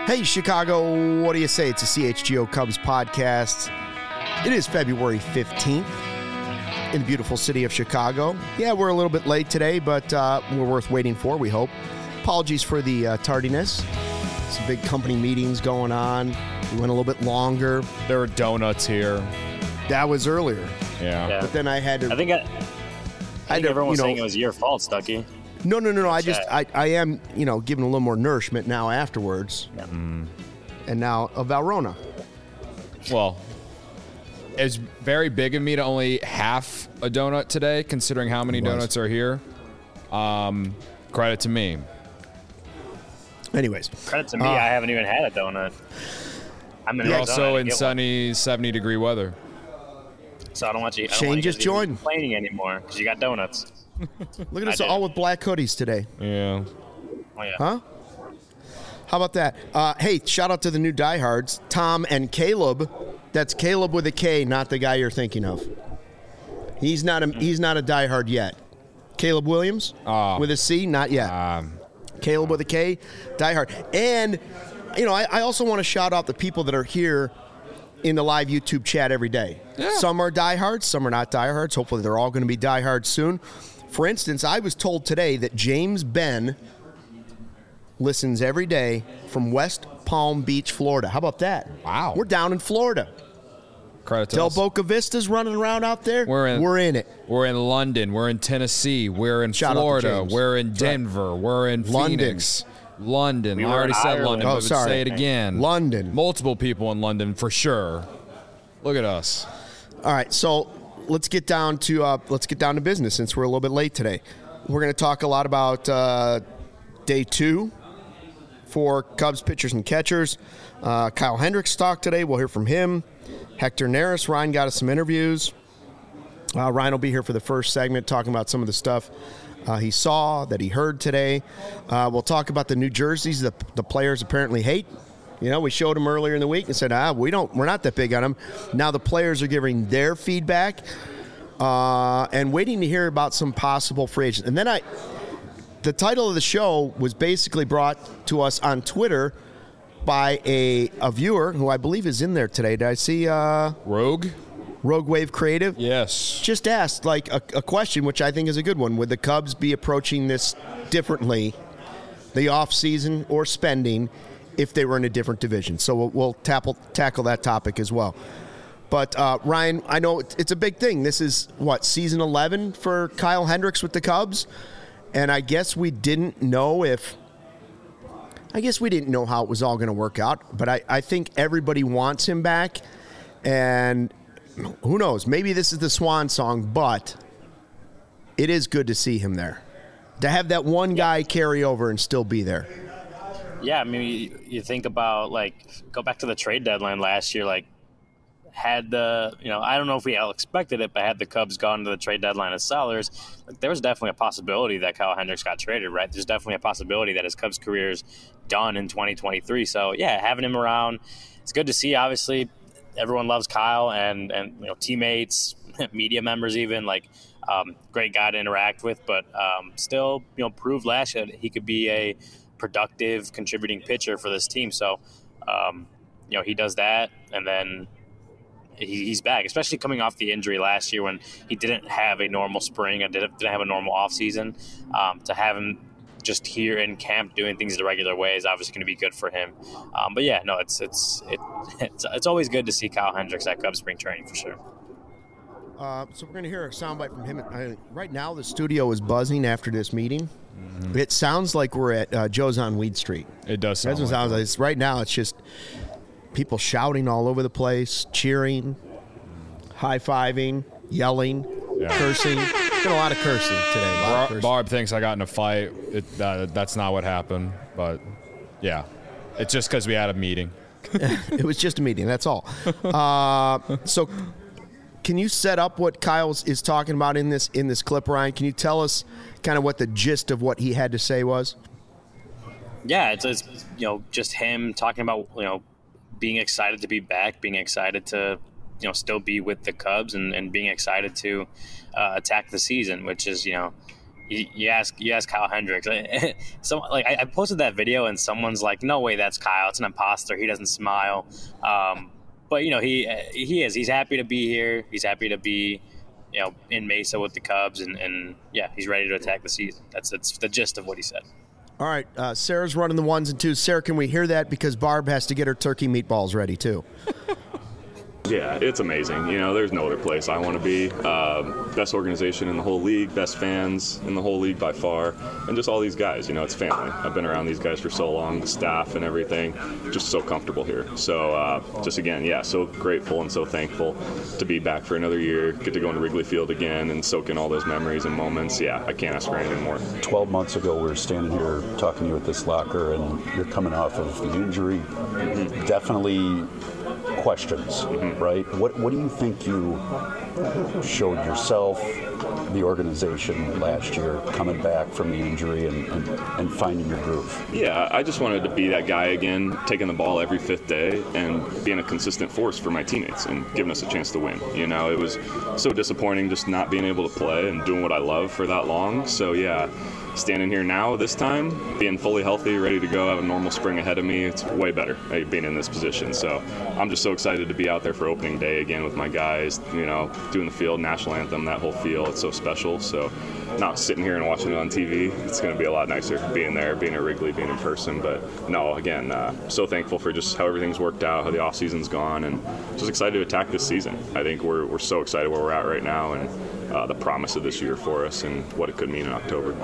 Hey, Chicago, what do you say? It's a CHGO Cubs podcast. It is February 15th in the beautiful city of Chicago. Yeah, we're a little bit late today, but we're worth waiting for, we hope. Apologies for the tardiness. Some big company meetings going on. We went a little bit longer. There were donuts here. That was earlier. Yeah. But then I had to... I think everyone was saying it was your fault, Stuckey. No. I am, giving a little more nourishment now afterwards. Yeah. And now a Valrhona. Well, it's very big of me to only half a donut today, considering how many donuts are here. Credit to me. Anyways. Credit to me, I haven't even had a donut. You're also in sunny 70-degree weather. So I don't want you. Shane just joined. Complaining anymore because you got donuts. Look at us all with black hoodies today. Yeah. Oh, yeah. Huh? How about that? Hey, shout out to the new diehards, Tom and Caleb. That's Caleb with a K, not the guy you're thinking of. He's not a diehard yet. Caleb Williams with a C, not yet. Caleb with a K, diehard. And I also want to shout out the people that are here in the live YouTube chat every day. Yeah. Some are diehards, some are not diehards. Hopefully they're all going to be diehards soon. For instance, I was told today that James Ben listens every day from West Palm Beach, Florida. How about that? Wow. We're down in Florida. Credit to Del us. Boca Vista's running around out there. We're in it. We're in London. We're in Tennessee. We're in Shout Florida. We're in Denver. We're in Phoenix. London. We I already said Ireland. London, Oh, but sorry. say it again. London. Multiple people in London for sure. Look at us. All right, so let's get down to business since we're a little bit late today. We're going to talk a lot about day 2 for Cubs pitchers and catchers. Kyle Hendricks talked today. We'll hear from him. Hector Neris. Ryan got us some interviews. Ryan will be here for the first segment talking about some of the stuff he saw, that he heard today. We'll talk about the new jerseys that the players apparently hate. We showed them earlier in the week and said, we're not that big on them. Now the players are giving their feedback and waiting to hear about some possible free agents. And then the title of the show was basically brought to us on Twitter by a viewer who I believe is in there today. Did I see Rogue Wave Creative? Yes. Just asked a question, which I think is a good one. Would the Cubs be approaching this differently, the offseason or spending, if they were in a different division? So we'll tackle that topic as well. But, Ryan, I know it's a big thing. This is, season 11 for Kyle Hendricks with the Cubs? And I guess we didn't know how it was all going to work out. But I think everybody wants him back. And who knows? Maybe this is the swan song, but it is good to see him there. To have that one guy carry over and still be there. Yeah, I mean, you think about, go back to the trade deadline last year, had the, I don't know if we all expected it, but had the Cubs gone to the trade deadline as sellers, there was definitely a possibility that Kyle Hendricks got traded, right? There's definitely a possibility that his Cubs career's done in 2023. So, yeah, having him around, it's good to see. Obviously, everyone loves Kyle and teammates, media members even, great guy to interact with, but still, proved last year that he could be a productive contributing pitcher for this team. So, he does that, and then he's back, especially coming off the injury last year when he didn't have a normal spring and didn't have a normal offseason. To have him just here in camp doing things the regular way is obviously going to be good for him. But yeah, no, it's always good to see Kyle Hendricks at Cubs spring training for sure. So we're going to hear a soundbite from him. Right now, the studio is buzzing after this meeting. Mm-hmm. It sounds like we're at Joe's on Weed Street. It does sound like that. Like right now, it's just people shouting all over the place, cheering, high-fiving, yelling, cursing. There's been a lot of cursing today. Barb thinks I got in a fight. That's not what happened. But, yeah, it's just because we had a meeting. It was just a meeting. That's all. So can you set up what Kyle is talking about in this clip, Ryan? Can you tell us kind of what the gist of what he had to say was? Yeah, it's just him talking about being excited to be back, being excited to still be with the Cubs, and being excited to attack the season, which is you ask Kyle Hendricks. So like I posted that video and someone's like, "No way, that's Kyle. It's an imposter. He doesn't smile." But he is. He's happy to be here. He's happy to be in Mesa with the Cubs, and yeah, he's ready to attack the season. That's the gist of what he said. All right, Sarah's running the 1s and 2s. Sarah, can we hear that? Because Barb has to get her turkey meatballs ready, too. Yeah, it's amazing. There's no other place I want to be. Best organization in the whole league, best fans in the whole league by far, and just all these guys. It's family. I've been around these guys for so long, the staff and everything, just so comfortable here. So just again, yeah, so grateful and so thankful to be back for another year, get to go into Wrigley Field again and soak in all those memories and moments. Yeah, I can't ask for anything more. 12 months ago, we were standing here talking to you at this locker, and you're coming off of the injury. Mm-hmm. Definitely questions, right? What do you think you showed yourself, the organization last year, coming back from the injury and finding your groove? Yeah, I just wanted to be that guy again, taking the ball every fifth day and being a consistent force for my teammates and giving us a chance to win. It was so disappointing just not being able to play and doing what I love for that long. So yeah, standing here now this time, being fully healthy, ready to go, have a normal spring ahead of me, it's way better being in this position. So I'm just so excited to be out there for opening day again with my guys, doing the field, national anthem, that whole feel. It's so special. So not sitting here and watching it on TV, it's going to be a lot nicer being there, being at Wrigley, being in person. But no, again, so thankful for just how everything's worked out, how the off season's gone, and just excited to attack this season. I think we're so excited where we're at right now and the promise of this year for us and what it could mean in October.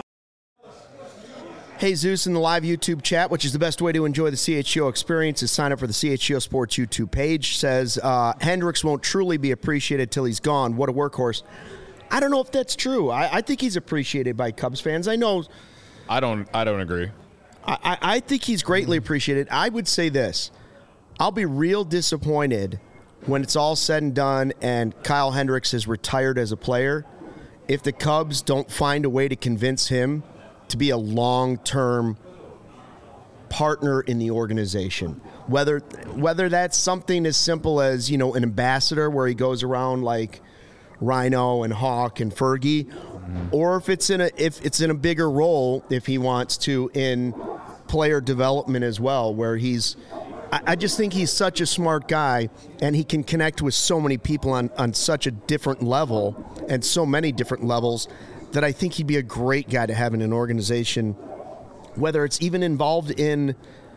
Hey, Zeus in the live YouTube chat, which is the best way to enjoy the CHGO experience, is sign up for the CHGO Sports YouTube page. Says, Hendricks won't truly be appreciated till he's gone. What a workhorse. I don't know if that's true. I think he's appreciated by Cubs fans. I know. I don't agree. I think he's greatly appreciated. I would say this. I'll be real disappointed when it's all said and done and Kyle Hendricks is retired as a player if the Cubs don't find a way to convince him to be a long-term partner in the organization. Whether that's something as simple as, an ambassador where he goes around like Rhino and Hawk and Fergie, or if it's in a bigger role, if he wants to, in player development as well, where I just think he's such a smart guy and he can connect with so many people on such a different level and so many different levels that I think he'd be a great guy to have in an organization, whether it's even involved in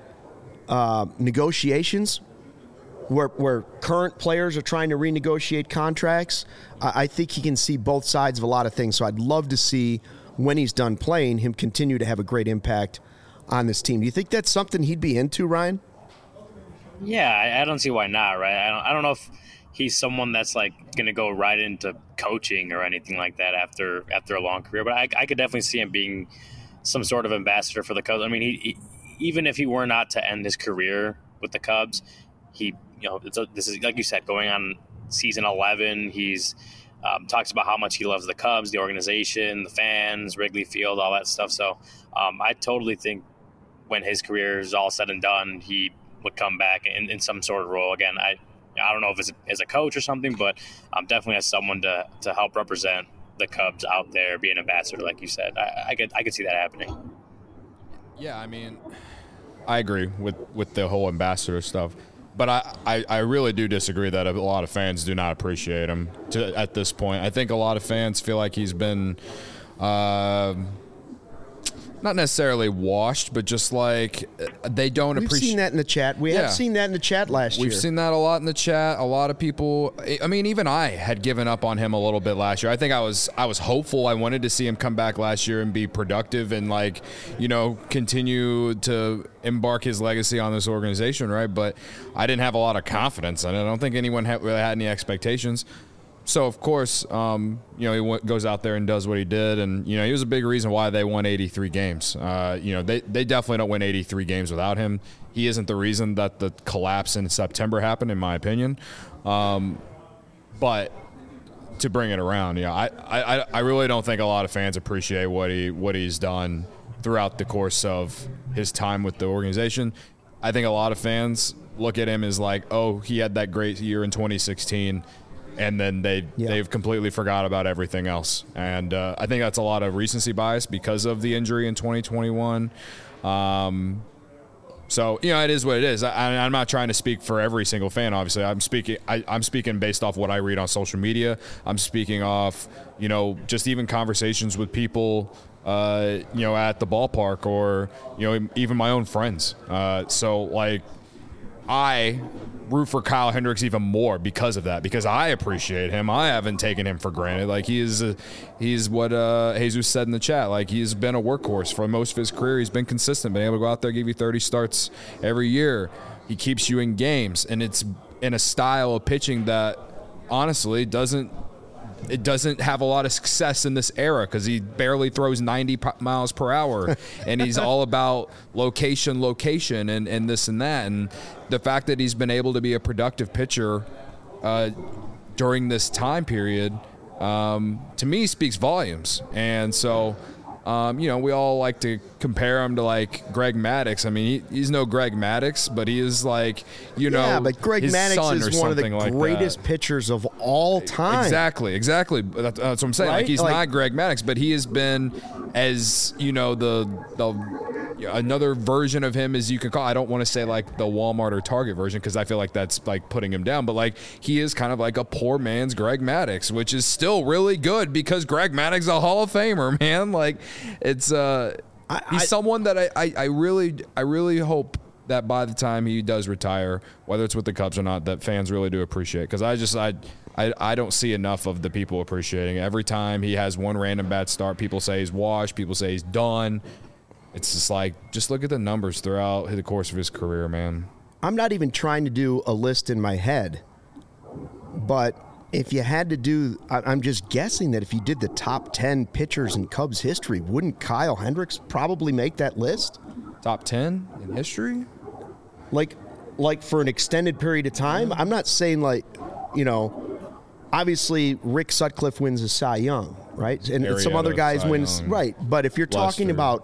negotiations where current players are trying to renegotiate contracts. I think he can see both sides of a lot of things. So I'd love to see, when he's done playing, him continue to have a great impact on this team. Do you think that's something he'd be into, Ryan? Yeah, I don't see why not, right? I don't know if he's someone that's like going to go right into coaching or anything like that after a long career. But I could definitely see him being some sort of ambassador for the Cubs. I mean, he even if he were not to end his career with the Cubs, this is, like you said, going on season 11. He's talks about how much he loves the Cubs, the organization, the fans, Wrigley Field, all that stuff. So I totally think when his career is all said and done, he would come back in some sort of role. Again, I don't know if it's as a coach or something, but definitely as someone to help represent the Cubs out there, be an ambassador, like you said. I could see that happening. Yeah, I mean, I agree with the whole ambassador stuff, but I really do disagree that a lot of fans do not appreciate him at this point. I think a lot of fans feel like he's been not necessarily washed, but just like they don't appreciate. We've seen that in the chat. We have seen that in the chat last year. We've seen that a lot in the chat. A lot of people. I mean, even I had given up on him a little bit last year. I think I was hopeful. I wanted to see him come back last year and be productive and continue to embark his legacy on this organization, right? But I didn't have a lot of confidence in it. I don't think anyone really had any expectations. So, of course, he goes out there and does what he did. And, he was a big reason why they won 83 games. They definitely don't win 83 games without him. He isn't the reason that the collapse in September happened, in my opinion. But to bring it around, I really don't think a lot of fans appreciate what he's done throughout the course of his time with the organization. I think a lot of fans look at him as like, oh, he had that great year in 2016. and then they've completely forgot about everything else. And I think that's a lot of recency bias because of the injury in 2021. So, it is what it is. I'm not trying to speak for every single fan, obviously. I'm speaking based off what I read on social media. I'm speaking off, just even conversations with people, at the ballpark or, even my own friends. I root for Kyle Hendricks even more because of that, because I appreciate him. I haven't taken him for granted. Like, he's what Jesus said in the chat. Like, he's been a workhorse for most of his career. He's been consistent, been able to go out there, give you 30 starts every year. He keeps you in games, and it's in a style of pitching that honestly doesn't have a lot of success in this era, because he barely throws 90 miles per hour, and he's all about location, and this and that. And the fact that he's been able to be a productive pitcher during this time period, to me, speaks volumes. And so, we all like to compare him to like Greg Maddux. I mean, he's no Greg Maddux, but he is like, but Greg Maddux is one of the greatest pitchers of all time. Exactly. That's what I'm saying. Right? Like, he's not Greg Maddux, but he has been as, another version of him as you can call. I don't want to say like the Walmart or Target version, because I feel like that's like putting him down, but like he is kind of like a poor man's Greg Maddux, which is still really good because Greg Maddux is a Hall of Famer, man. Like, it's he's someone that I really hope that by the time he does retire, whether it's with the Cubs or not, that fans really do appreciate, because I don't see enough of the people appreciating it. Every time he has one random bad start, people say he's washed, people say he's done. It's just like, just look at the numbers throughout the course of his career, man. I'm not even trying to do a list in my head, but if you had to do, I'm just guessing that if you did the top 10 pitchers in Cubs history, wouldn't Kyle Hendricks probably make that list? Top 10 in history? Like for an extended period of time? I'm not saying obviously Rick Sutcliffe wins a Cy Young, right? And some other guys wins, right. But if you're talking about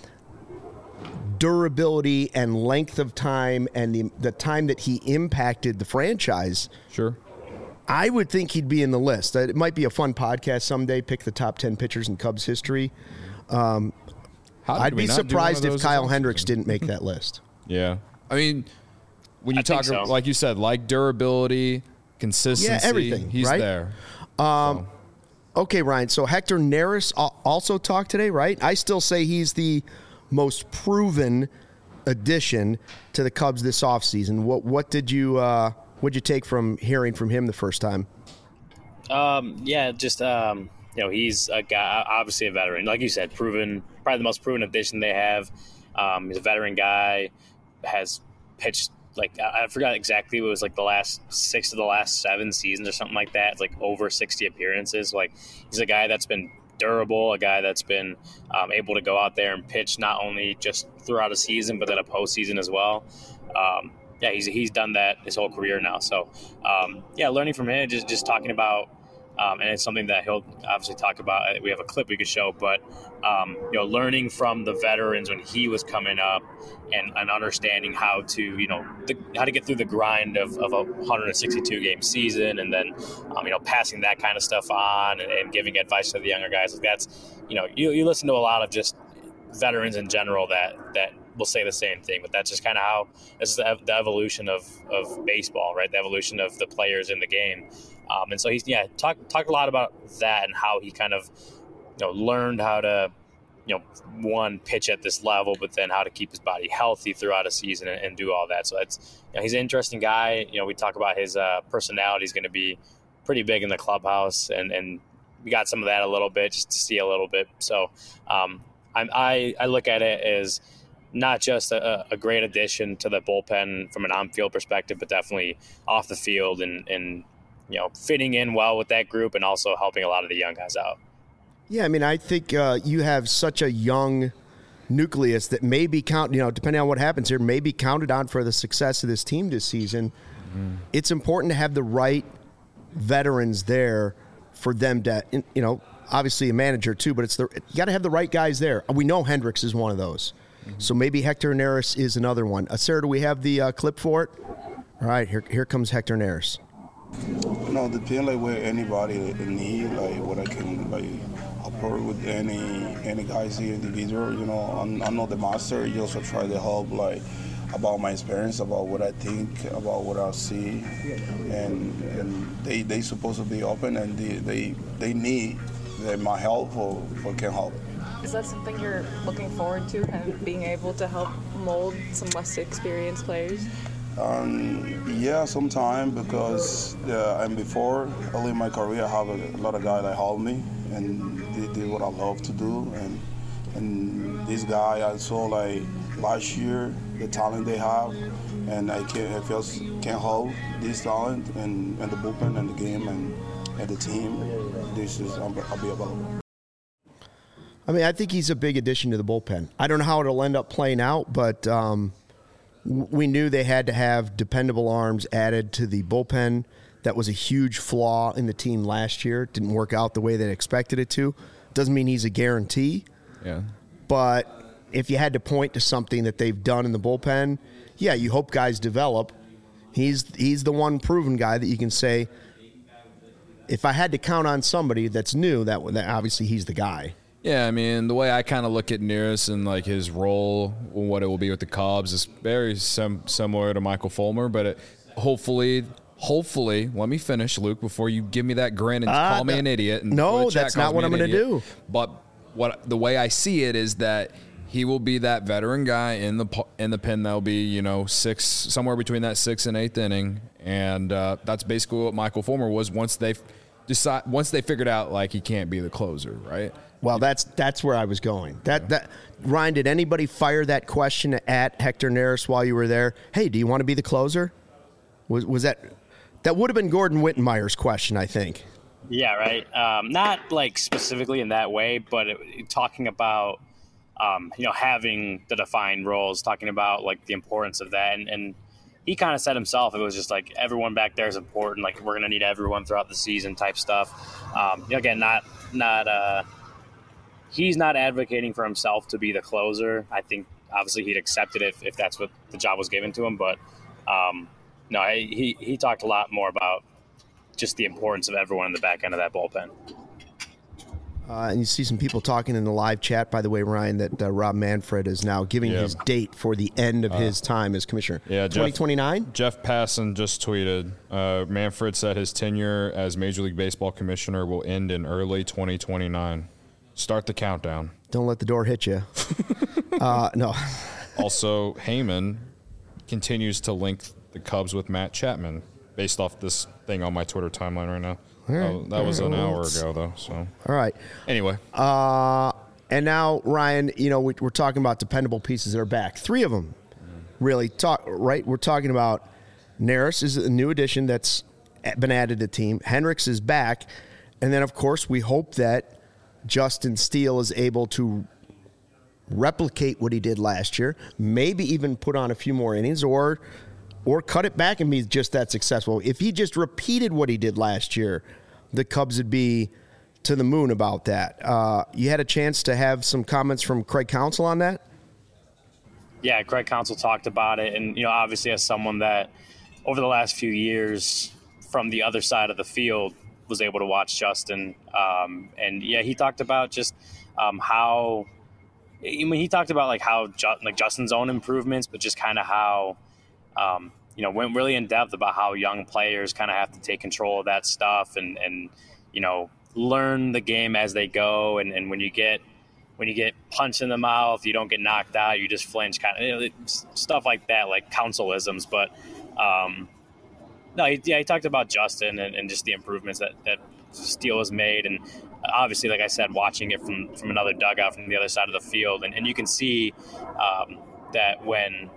durability and length of time and the time that he impacted the franchise, sure, I would think he'd be in the list. It might be a fun podcast someday, pick the top 10 pitchers in Cubs history. I'd be surprised if Kyle Hendricks didn't make that list. Yeah. I mean, when you talk, like you said, like durability, consistency, everything, he's right? there. Okay, Ryan, so Hector Neris also talked today, right? I still say he's the most proven addition to the Cubs this offseason. What did you take from hearing from him the first time? He's a guy, obviously a veteran, like you said, proven, probably the most proven addition they have. He's a veteran guy, has pitched like, I forgot exactly, it was like the last 6 of the last 7 seasons or something like that. It's like over 60 appearances. Like, he's a guy that's been durable, a guy that's been able to go out there and pitch not only just throughout a season, but then a postseason as well. He's done that his whole career now. So, learning from him, just talking about, and it's something that he'll obviously talk about. We have a clip we could show, but learning from the veterans when he was coming up, and understanding how to how to get through the grind of a 162 game season, and then passing that kind of stuff on and giving advice to the younger guys. Like, that's you listen to a lot of just veterans in general that will say the same thing, but that's just kind of how this is the evolution of baseball, right? The evolution of the players in the game. And so he's talked a lot about that and how he kind of learned how to one, pitch at this level, but then how to keep his body healthy throughout a season and do all that. So it's he's an interesting guy. We talk about his personality is going to be pretty big in the clubhouse, and we got some of that a little bit just to see a little bit. So I look at it as not just a great addition to the bullpen from an on-field perspective, but definitely off the field and fitting in well with that group and also helping a lot of the young guys out. Yeah, I mean, I think you have such a young nucleus that may be depending on what happens here, may be counted on for the success of this team this season. Mm-hmm. It's important to have the right veterans there for them to, obviously a manager too, but you got to have the right guys there. We know Hendricks is one of those. Mm-hmm. So maybe Hector Neris is another one. Sarah, do we have the clip for it? All right, here comes Hector Neris. depend like where anybody need, like what I can like approach with any guys here individual. I'm not the master. You also try to help like about my experience, about what I think, about what I see, and they supposed to be open, and they need my help or can help. Is that something you're looking forward to, kind of being able to help mold some less experienced players? Yeah, sometime, because and before early in my career, I have a lot of guys that help me and they did what I love to do, and this guy I saw like last year the talent they have, and I can hold this talent and the bullpen and the game and the team. I'll be available. I mean, I think he's a big addition to the bullpen. I don't know how it'll end up playing out, but we knew they had to have dependable arms added to the bullpen. That was a huge flaw in the team last year. It didn't work out the way they expected it to. Doesn't mean he's a guarantee. Yeah. But if you had to point to something that they've done in the bullpen, yeah, you hope guys develop. He's the one proven guy that you can say, if I had to count on somebody that's new, that obviously he's the guy. Yeah, I mean, the way I kind of look at Neris and like his role, what it will be with the Cubs, is very similar to Michael Fulmer. But hopefully, let me finish, Luke, before you give me that grin and call me an idiot. And no, that's not what I'm going to do. But the way I see it is that he will be that veteran guy in the pen that'll be somewhere between that 6th and 8th inning, and that's basically what Michael Fulmer was once they figured out like he can't be the closer, right? Well, that's where I was going. Ryan, did anybody fire that question at Hector Neris while you were there? Hey, do you want to be the closer? Was that would have been Gordon Wittenmeyer's question, I think. Yeah, right. Not like specifically in that way, but talking about having the defined roles, talking about like the importance of that, and he kind of said himself, it was just like everyone back there is important. Like we're gonna need everyone throughout the season, type stuff. Again, not. He's not advocating for himself to be the closer. I think obviously he'd accept it if that's what the job was given to him. But no, he talked a lot more about just the importance of everyone in the back end of that bullpen. And you see some people talking in the live chat, by the way, Ryan, that Rob Manfred is now giving his date for the end of his time as commissioner. Yeah, 2029? Jeff Passan just tweeted, Manfred said his tenure as Major League Baseball commissioner will end in early 2029. Start the countdown. Don't let the door hit you. No. Also, Heyman continues to link the Cubs with Matt Chapman based off this thing on my Twitter timeline right now. Right. That was an hour ago, though. So all right. Anyway. And now, Ryan, we're talking about dependable pieces that are back. 3 of them really right? We're talking about Neris is a new addition that's been added to the team. Hendricks is back. And then, of course, we hope that Justin Steele is able to replicate what he did last year, maybe even put on a few more innings or cut it back and be just that successful. If he just repeated what he did last year, the Cubs would be to the moon about that. You had a chance to have some comments from Craig Counsell on that? Yeah, Craig Counsell talked about it. And, obviously as someone that over the last few years from the other side of the field was able to watch Justin. And yeah, he talked about just how, he talked about like how Justin's own improvements, but just kind of how, went really in depth about how young players kind of have to take control of that stuff and learn the game as they go. And when you get punched in the mouth, you don't get knocked out, you just flinch, kind of stuff like that, like Counsell-isms. But no, he talked about Justin and just the improvements that Steele has made. And obviously, like I said, watching it from another dugout from the other side of the field. And you can see that when,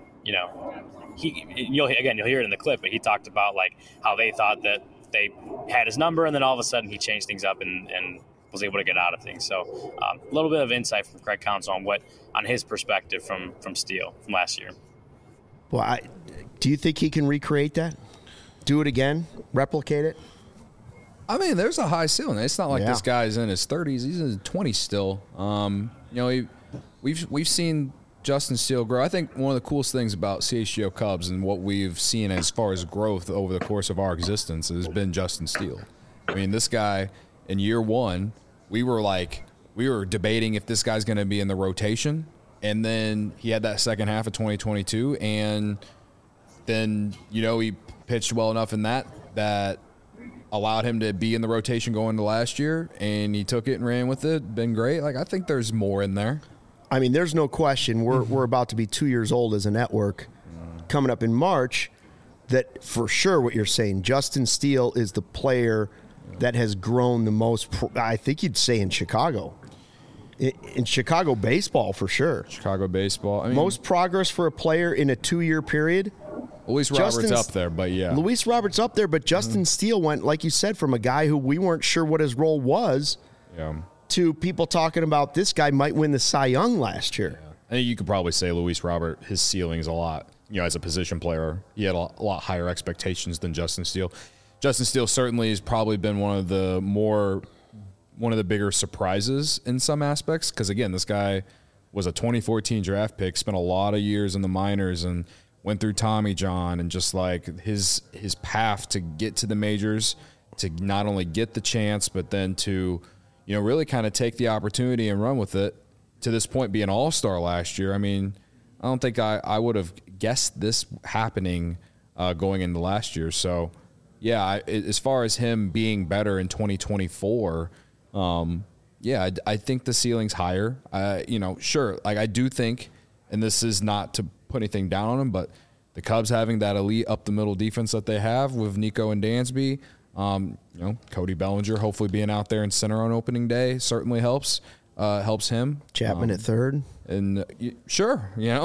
you'll hear it in the clip, but he talked about like how they thought that they had his number, and then all of a sudden he changed things up and was able to get out of things. So a little bit of insight from Craig Counsell on his perspective from Steele from last year. Well, do you think he can recreate that? Do it again? Replicate it? I mean, there's a high ceiling. It's not like this guy's in his 30s. He's in his 20s still. We've seen Justin Steele grow. I think one of the coolest things about CHGO Cubs and what we've seen as far as growth over the course of our existence has been Justin Steele. I mean, this guy in year one, we were debating if this guy's going to be in the rotation, and then he had that second half of 2022, and then he pitched well enough in that allowed him to be in the rotation going to last year, and he took it and ran with it. Been great. I think there's more in there. I mean, there's no question. We're about to be 2 years old as a network coming up in March. That for sure what you're saying, Justin Steele is the player that has grown the most, I think you'd say in Chicago. In Chicago baseball, for sure. Chicago baseball. I mean, most progress for a player in a 2-year period. Luis Roberts up there, but yeah. Luis Roberts up there, but Justin Steele went, like you said, from a guy who we weren't sure what his role was to people talking about this guy might win the Cy Young last year. Yeah. I think you could probably say Luis Robert, his ceiling is a lot, as a position player, he had a lot higher expectations than Justin Steele. Justin Steele certainly has probably been one of the bigger surprises in some aspects because, again, this guy was a 2014 draft pick, spent a lot of years in the minors and went through Tommy John, and just his path to get to the majors, to not only get the chance, but then to really kind of take the opportunity and run with it, to this point be an all-star last year. I mean, I don't think I would have guessed this happening going into last year. So, yeah, as far as him being better in 2024, I think the ceiling's higher. Sure, I do think, and this is not to put anything down on him, but the Cubs having that elite up-the-middle defense that they have with Nico and Dansby, Cody Bellinger hopefully being out there in center on opening day certainly helps him. Chapman at third. And sure,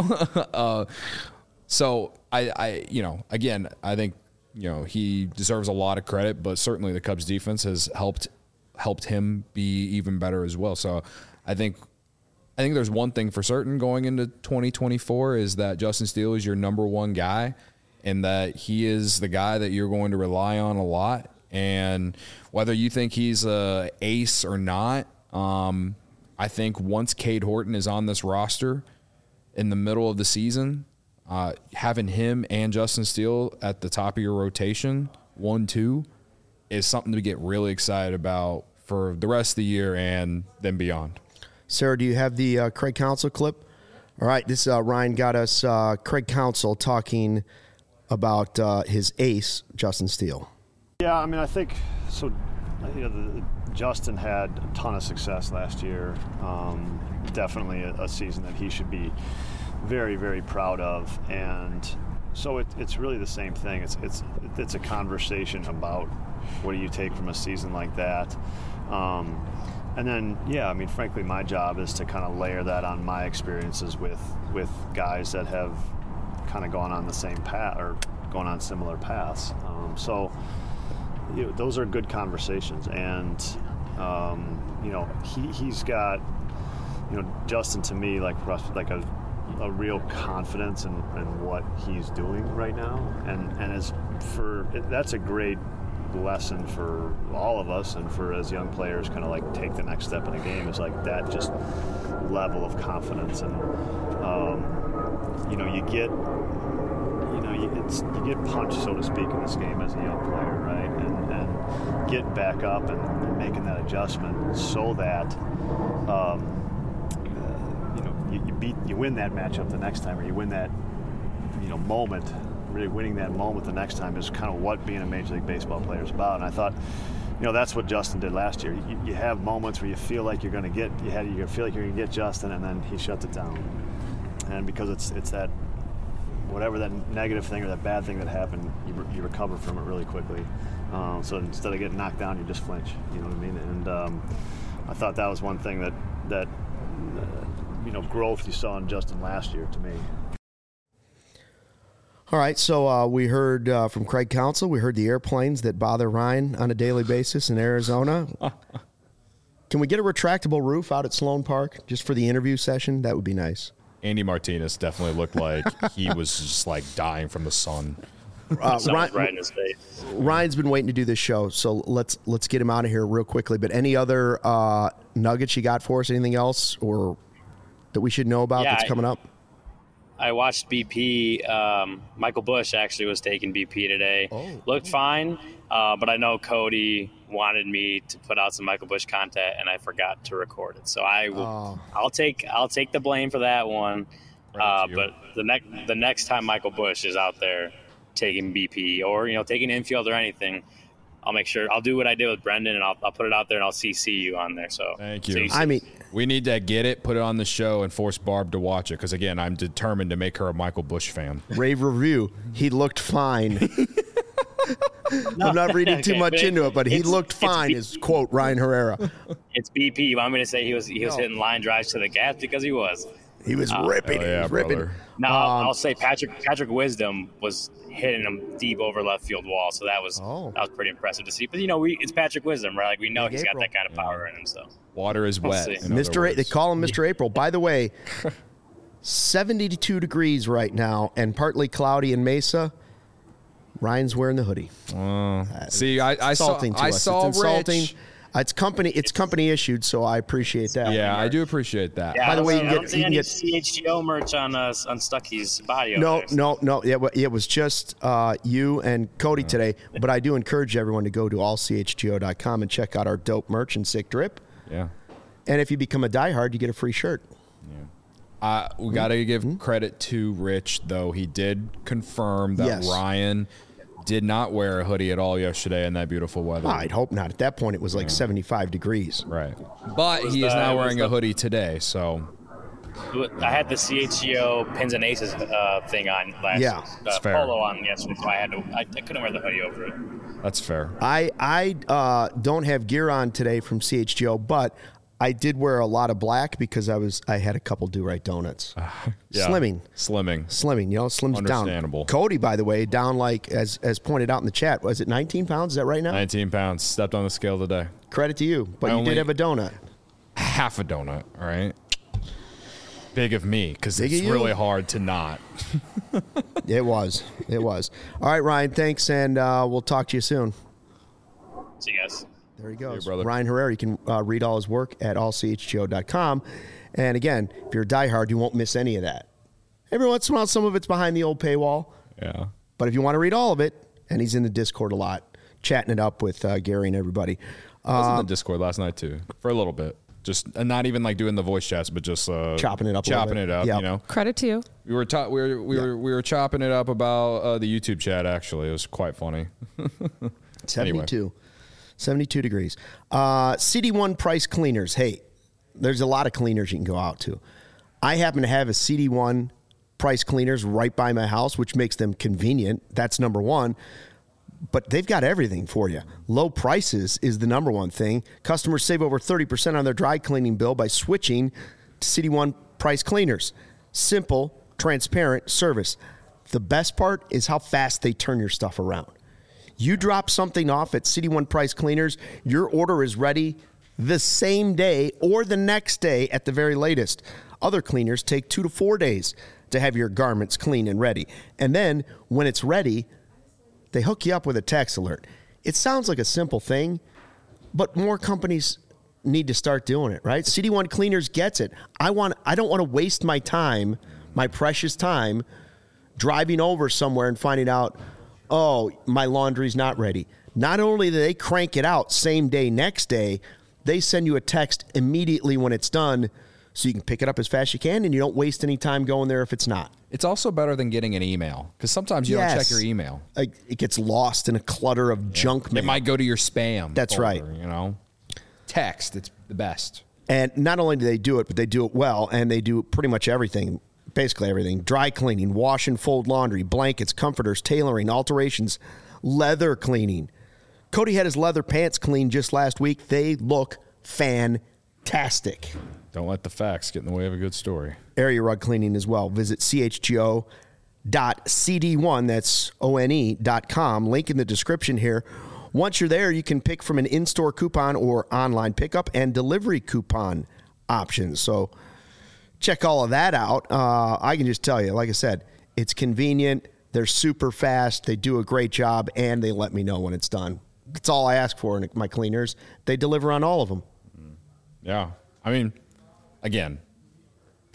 so again, I think, he deserves a lot of credit, but certainly the Cubs defense has helped him be even better as well. So I think there's one thing for certain going into 2024 is that Justin Steele is your number one guy, and that he is the guy that you're going to rely on a lot. And whether you think he's a ace or not, I think once Cade Horton is on this roster in the middle of the season, having him and Justin Steele at the top of your rotation, 1-2, is something to get really excited about for the rest of the year and then beyond. Sarah, do you have the Craig Counsell clip? All right, this Ryan got us Craig Counsell talking about his ace, Justin Steele. Yeah, I mean, I think so. Justin had a ton of success last year. Definitely a season that he should be very, very proud of. And so it's really the same thing. It's a conversation about what do you take from a season like that. And then, I mean, frankly, my job is to kind of layer that on my experiences with guys that have kind of gone on the same path or gone on similar paths. Those are good conversations. And, he's got, Justin to me, like a real confidence in what he's doing right now. And that's a great lesson for all of us and for as young players kind of take the next step in the game is that just level of confidence. And you get punched, so to speak, in this game as a young player, right? And getting back up and making that adjustment so that you win that matchup the next time, or you win that moment. Really winning that moment the next time is kind of what being a Major League Baseball player is about. And I thought, that's what Justin did last year. You have moments where you feel like you're going to get, you feel like you're going to get Justin, and then he shuts it down. And because it's that, whatever that negative thing or that bad thing that happened, you recover from it really quickly. So instead of getting knocked down, you just flinch. You know what I mean? And I thought that was one thing that growth you saw in Justin last year to me. All right, so we heard from Craig Counsell. We heard the airplanes that bother Ryan on a daily basis in Arizona. Can we get a retractable roof out at Sloan Park just for the interview session? That would be nice. Andy Martinez definitely looked like he was just dying from the sun. Right in his face. Ryan's been waiting to do this show, so let's get him out of here real quickly. But any other nuggets you got for us? Anything else or that we should know about that's coming up? I watched BP. Michael Bush actually was taking BP today. Looked fine, but I know Cody wanted me to put out some Michael Bush content, and I forgot to record it. So I'll take the blame for that one. But the next time Michael Bush is out there taking BP or taking infield or anything, I'll make sure I'll do what I did with Brendan, and I'll put it out there, and I'll CC you on there. So thank you. I mean, we need to get it, put it on the show, and force Barb to watch it because again, I'm determined to make her a Michael Bush fan. Rave review. He looked fine. I'm not reading too much into it, but he looked fine. Is quote Ryan Herrera. It's BP. You want me to say he was hitting line drives to the gas because he was. He was ripping. Oh, yeah, he was ripping. brother. Now I'll say Patrick Wisdom was hitting him deep over left field wall, so that was pretty impressive to see. But it's Patrick Wisdom, right? Like we know he's got that kind of power in him. So water is wet. Mr. They call him Mr. April. By the way, 72 degrees right now and partly cloudy in Mesa. Ryan's wearing the hoodie. See, I saw it's insulting. Rich. It's company issued, so I appreciate that. Yeah, I do appreciate that. Yeah, by the way, I don't see any CHGO merch on Stucky's body. No. It was just you and Cody today. But I do encourage everyone to go to allchgo.com and check out our dope merch and sick drip. Yeah. And if you become a diehard, you get a free shirt. Yeah. We got to give credit to Rich, though. He did confirm that Ryan did not wear a hoodie at all yesterday in that beautiful weather. I'd hope not. At that point, it was like 75 degrees. Right. But he is now wearing a hoodie today, so. I had the CHGO Pins and Aces thing on last polo on yesterday, so I couldn't wear the hoodie over it. That's fair. I don't have gear on today from CHGO, but I did wear a lot of black because I had a couple do-right donuts. Slimming. Slims down. Understandable. Cody, by the way, down like, as pointed out in the chat, was it 19 pounds? Is that right now? 19 pounds. Stepped on the scale today. Credit to you. But you did have a donut. Half a donut, all right? Big of me, because it's really hard to not. It was. All right, Ryan, thanks, and we'll talk to you soon. See you guys. There he goes. Hey, brother. Ryan Herrera. You can read all his work at allchgo.com. And again, if you're a diehard, you won't miss any of that. Every once in a while, some of it's behind the old paywall. Yeah. But if you want to read all of it, and he's in the Discord a lot, chatting it up with Gary and everybody. I was in the Discord last night, too, for a little bit. Just not even like doing the voice chats, but just chopping it up. Yep. Credit to you. We were chopping it up about the YouTube chat. Actually, it was quite funny. 72. Anyway. 72 degrees. CD1 price cleaners. Hey, there's a lot of cleaners you can go out to. I happen to have a CD1 price cleaners right by my house, which makes them convenient. That's number one. But they've got everything for you. Low prices is the number one thing. Customers save over 30% on their dry cleaning bill by switching to CD1 price cleaners. Simple, transparent service. The best part is how fast they turn your stuff around. You drop something off at CD1 Price Cleaners, your order is ready the same day or the next day at the very latest. Other cleaners take 2 to 4 days to have your garments clean and ready. And then when it's ready, they hook you up with a text alert. It sounds like a simple thing, but more companies need to start doing it, right? CD1 Cleaners gets it. I don't want to waste my time, my precious time, driving over somewhere and finding out, oh, my laundry's not ready. Not only do they crank it out same day, next day, they send you a text immediately when it's done so you can pick it up as fast as you can and you don't waste any time going there if it's not. It's also better than getting an email because sometimes you don't check your email. It gets lost in a clutter of junk mail. It might go to your spam. That's folder, right. Text, it's the best. And not only do they do it, but they do it well, and they do pretty much everything. Basically everything. Dry cleaning, wash and fold laundry, blankets, comforters, tailoring, alterations, leather cleaning. Cody had his leather pants cleaned just last week. They look fantastic. Don't let the facts get in the way of a good story. Area rug cleaning as well. Visit chgo.cd1, that's one.com. Link in the description here. Once you're there, you can pick from an in-store coupon or online pickup and delivery coupon options. So check all of that out. I can just tell you, like I said, it's convenient. They're super fast. They do a great job, and they let me know when it's done. That's all I ask for in my cleaners. They deliver on all of them. Yeah. I mean, again,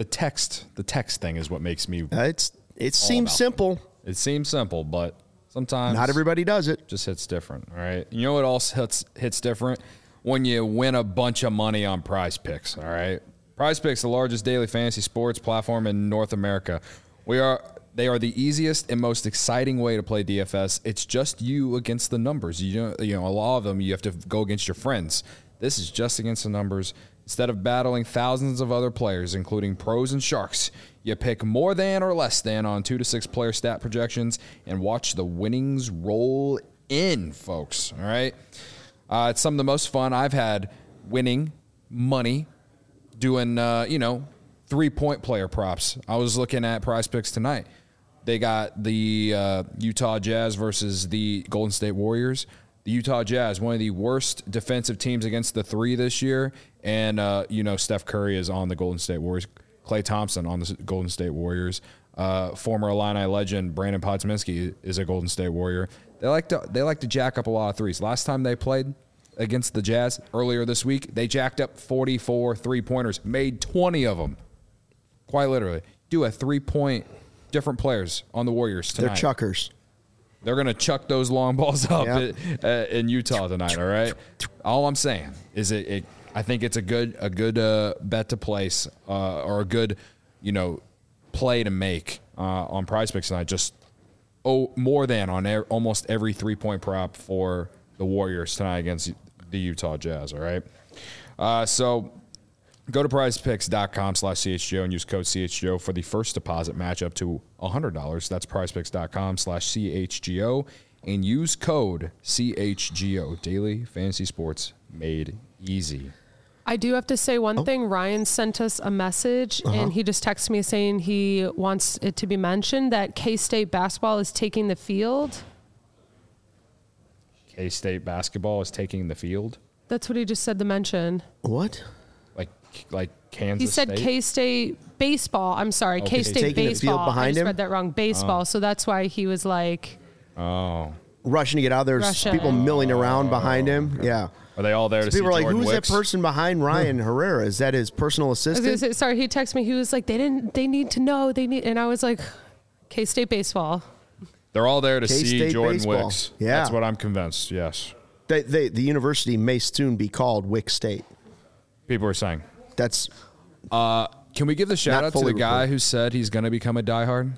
the text thing is what makes me. It seems simple. It seems simple, but sometimes not everybody does it. Just hits different. All right. You know what else hits different? When you win a bunch of money on Prize Picks. All right. Prize Picks, the largest daily fantasy sports platform in North America. They are the easiest and most exciting way to play DFS. It's just you against the numbers. You know, a lot of them you have to go against your friends. This is just against the numbers. Instead of battling thousands of other players, including pros and sharks, you pick more than or less than on 2 to 6 player stat projections and watch the winnings roll in, folks. All right. It's some of the most fun I've had winning money doing, 3-point player props. I was looking at Prize Picks tonight. They got the Utah Jazz versus the Golden State Warriors. The Utah Jazz, one of the worst defensive teams against the three this year. And, Steph Curry is on the Golden State Warriors. Klay Thompson on the Golden State Warriors. Former Illini legend Brandon Podziemski is a Golden State Warrior. They like to jack up a lot of threes. Last time they played against the Jazz earlier this week, they jacked up 44 3-pointers, made 20 of them. Quite literally. Do a 3-point different players on the Warriors tonight. They're chuckers. They're going to chuck those long balls up in Utah tonight, all right? All I'm saying is I think it's a good bet to place or a good, play to make on Prize Picks tonight. Just more than on almost every 3-point prop for the Warriors tonight against the Utah Jazz, all right? So go to prizepicks.com/CHGO and use code CHGO for the first deposit match up to $100. That's prizepicks.com/CHGO and use code CHGO. Daily fantasy sports made easy. I do have to say one thing. Ryan sent us a message, and he just texted me saying he wants it to be mentioned that K-State basketball is taking the field. K-State basketball is taking the field? That's what he just said to mention. What? Like Kansas He said State? K-State baseball. I'm sorry, K-State Taking the baseball. field behind I just him? read that wrong. Baseball. So that's why he was like... Rushing to get out. There's people milling around behind him. Okay. Yeah. Are they all there to see People are like, Jordan who's Wicks? that person behind Ryan Herrera? Is that his personal I was assistant? gonna say, sorry, he texted me. He was like, they need to know. And I was like, K-State baseball. They're all there to see K-State Jordan baseball. Wicks. Yeah. That's what I'm convinced, yes. The university may soon be called Wick State. People are saying. That's... Can we give the shout out to the guy who said he's going to become a diehard?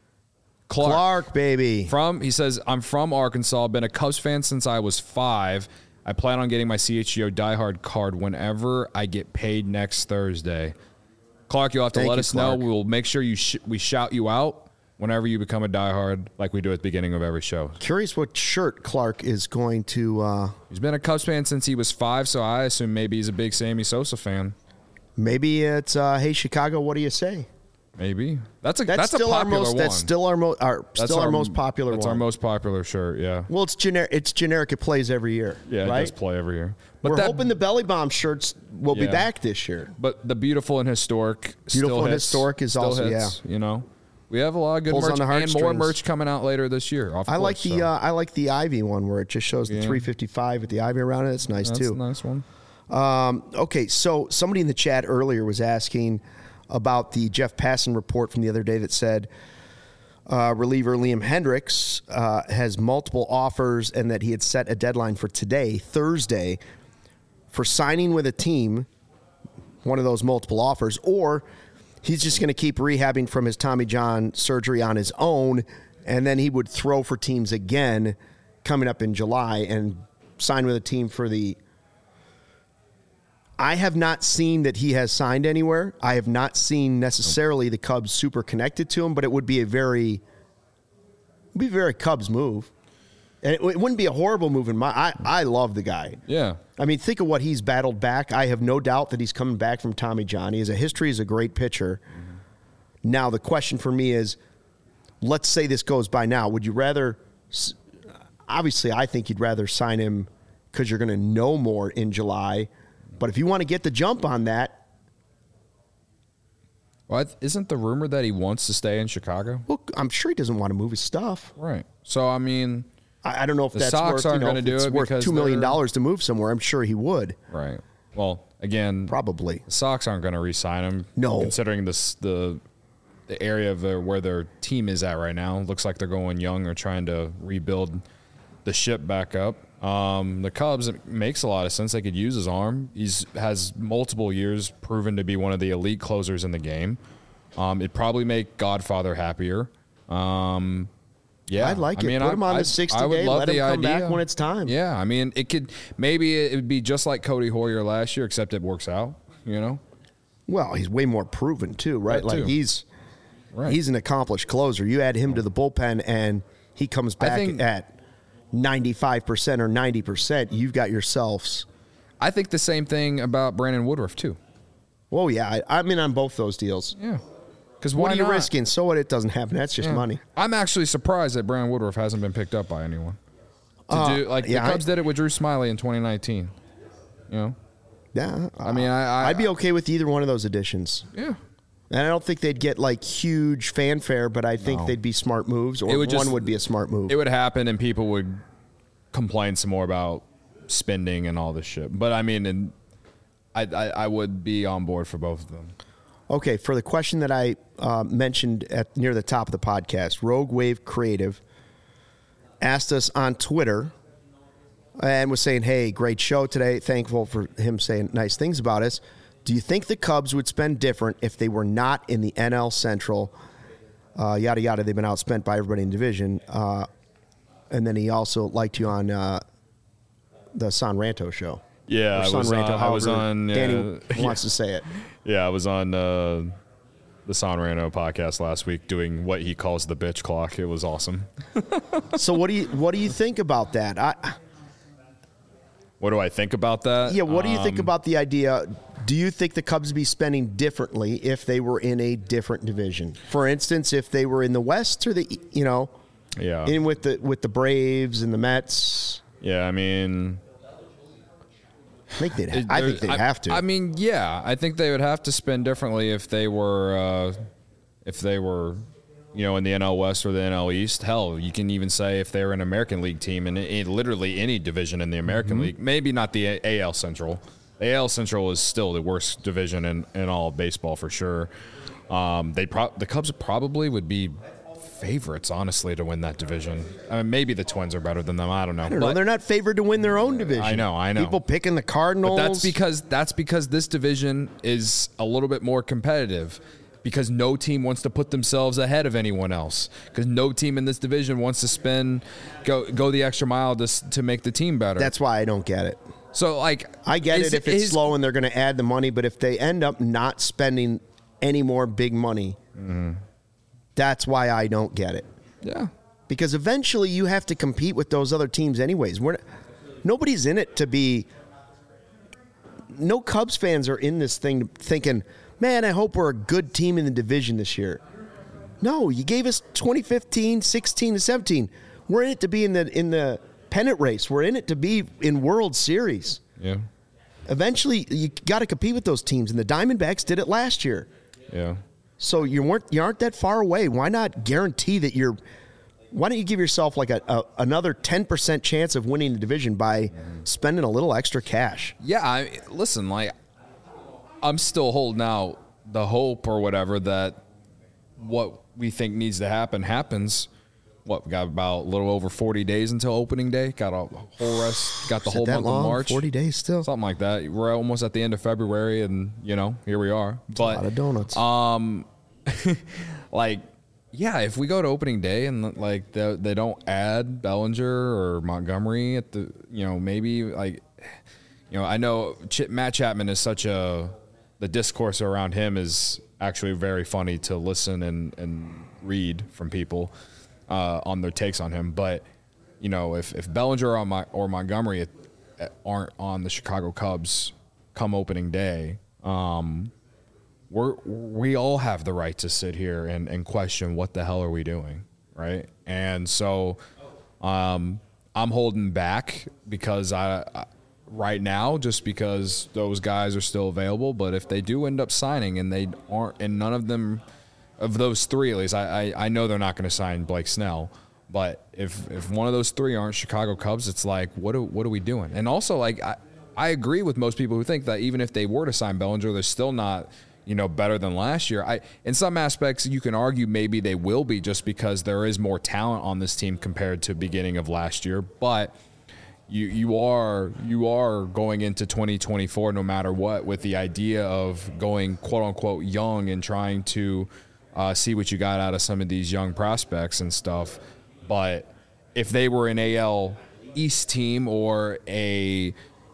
Clark, baby. He says, I'm from Arkansas, been a Cubs fan since I was 5. I plan on getting my CHGO diehard card whenever I get paid next Thursday. Clark, you'll have to let us know. We will make sure we shout you out whenever you become a diehard, like we do at the beginning of every show. Curious what shirt Clark is going to... He's been a Cubs fan since he was 5, so I assume maybe he's a big Sammy Sosa fan. Maybe it's, hey, Chicago, what do you say? Maybe. That's still a popular our most, one. That's still our most popular one. That's our most popular shirt, yeah. Well, it's generic. It's generic. It plays every year. Yeah, right? It does play every year. But we're hoping the Belly Bomb shirts will be back this year. But the Beautiful and Historic Historic is also hits, We have a lot of good merch and more merch coming out later this year. I like the Ivy one where it just shows the 355 with the Ivy around it. It's nice too. That's a nice one. Okay, so somebody in the chat earlier was asking about the Jeff Passan report from the other day that said reliever Liam Hendriks has multiple offers and that he had set a deadline for today, Thursday, for signing with a team, one of those multiple offers, or he's just going to keep rehabbing from his Tommy John surgery on his own, and then he would throw for teams again coming up in July and sign with a team for the... I have not seen that he has signed anywhere. I have not seen necessarily the Cubs super connected to him, but it would be a very Cubs move. And it wouldn't be a horrible move in my... I love the guy. Yeah. I mean, think of what he's battled back. I have no doubt that he's coming back from Tommy John. He has a history as a great pitcher. Mm-hmm. Now, the question for me is, let's say this goes by now. Would you rather... Obviously, I think you'd rather sign him because you're going to know more in July. But if you want to get the jump on that... Well, isn't the rumor that he wants to stay in Chicago? Well, I'm sure he doesn't want to move his stuff. Right. So, I mean... I don't know if the that's Sox worth, aren't going to do it worth because $2 million to move somewhere. I'm sure he would. Right. Well, again, Probably. the Sox aren't going to re-sign him. No. Considering the area of where their team is at right now. Looks like they're going young. They're trying to rebuild the ship back up. The Cubs, it makes a lot of sense. They could use his arm. Has multiple years proven to be one of the elite closers in the game. It'd probably make Godfather happier. Yeah, I'd like it. Put him on the 60-day. Let him come back when it's time. Yeah, I mean, maybe it would be just like Cody Hoyer last year, except it works out, you know? Well, he's way more proven too, right? That too. Like he's an accomplished closer. You add him to the bullpen and he comes back at 95% or 90%, you've got yourselves. I think the same thing about Brandon Woodruff too. Well, yeah, I'm in on both those deals. Yeah. Because what are you risking? So what? It doesn't happen. That's just money. I'm actually surprised that Brandon Woodruff hasn't been picked up by anyone. The Cubs did it with Drew Smyly in 2019. You know? Yeah. I mean, I'd be okay with either one of those additions. Yeah. And I don't think they'd get like huge fanfare, but I think they'd be smart moves, or one would be a smart move. It would happen, and people would complain some more about spending and all this shit. But I mean, I would be on board for both of them. Okay, for the question that I mentioned near the top of the podcast, Rogue Wave Creative asked us on Twitter and was saying, hey, great show today. Thankful for him saying nice things about us. Do you think the Cubs would spend different if they were not in the NL Central? Yada, yada. They've been outspent by everybody in the division. And then he also liked you on the San Ranto show. Yeah, I was on. Danny wants to say it. Yeah, I was on the San Rano podcast last week doing what he calls the bitch clock. It was awesome. So what do you think about that? What do I think about that? Yeah, what do you think about the idea? Do you think the Cubs would be spending differently if they were in a different division? For instance, if they were in the West or the in with the Braves and the Mets. Yeah, I mean, I think they'd have to. I mean, yeah, I think they would have to spend differently if they were in the NL West or the NL East. Hell, you can even say if they were an American League team in literally any division in the American League. Maybe not the AL Central. The AL Central is still the worst division in all of baseball for sure. The Cubs probably would be favorites, honestly, to win that division. I mean, maybe the Twins are better than them. I don't know. They're not favored to win their own division. I know. People picking the Cardinals. But that's because this division is a little bit more competitive. Because no team wants to put themselves ahead of anyone else. Because no team in this division wants to go the extra mile to make the team better. That's why I don't get it. So, I get it if it's slow and they're going to add the money, but if they end up not spending any more big money, that's why I don't get it. Yeah. Because eventually you have to compete with those other teams anyways. Nobody's in it to be... No Cubs fans are in this thing thinking, man, I hope we're a good team in the division this year. No, you gave us 2015, 16, and 17. We're in it to be in the pennant race. We're in it to be in World Series. Yeah. Eventually, you got to compete with those teams, and the Diamondbacks did it last year. Yeah. So you aren't that far away. Why not guarantee that you're? Why don't you give yourself like another 10% chance of winning the division by spending a little extra cash? Yeah. Listen, I'm still holding out the hope or whatever that what we think needs to happen happens. We got about a little over 40 days until opening day. Got a whole rest. Got the whole month of March. 40 days still. Something like that. We're almost at the end of February, and here we are. But a lot of donuts. If we go to opening day and they don't add Bellinger or Montgomery at the I know Matt Chapman is the discourse around him is actually very funny to listen and read from people on their takes on him. But, if Bellinger or Montgomery aren't on the Chicago Cubs come opening day, we all have the right to sit here and question what the hell are we doing, right? And so I'm holding back because right now, just because those guys are still available. But if they do end up signing and they aren't, and none of them, of those three at least, I know they're not going to sign Blake Snell. But if one of those three aren't Chicago Cubs, it's like, what are we doing? And also, I agree with most people who think that even if they were to sign Bellinger, they're still not, better than last year. In some aspects, you can argue maybe they will be just because there is more talent on this team compared to beginning of last year. But you are going into 2024 no matter what with the idea of going quote unquote young and trying to see what you got out of some of these young prospects and stuff. But if they were an AL East team or a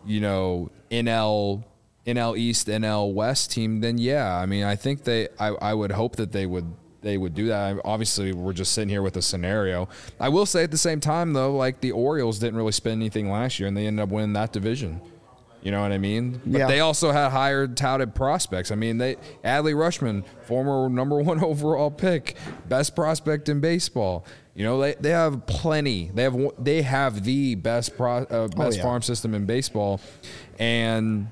NL East, NL West team, then yeah, I mean, I think I would hope that they would do that. Obviously, we're just sitting here with a scenario. I will say at the same time, though, like the Orioles didn't really spend anything last year, and they ended up winning that division. You know what I mean? But they also had higher touted prospects. I mean, Adley Rutschman, former #1 overall pick, best prospect in baseball. They have plenty. They have the best farm system in baseball, and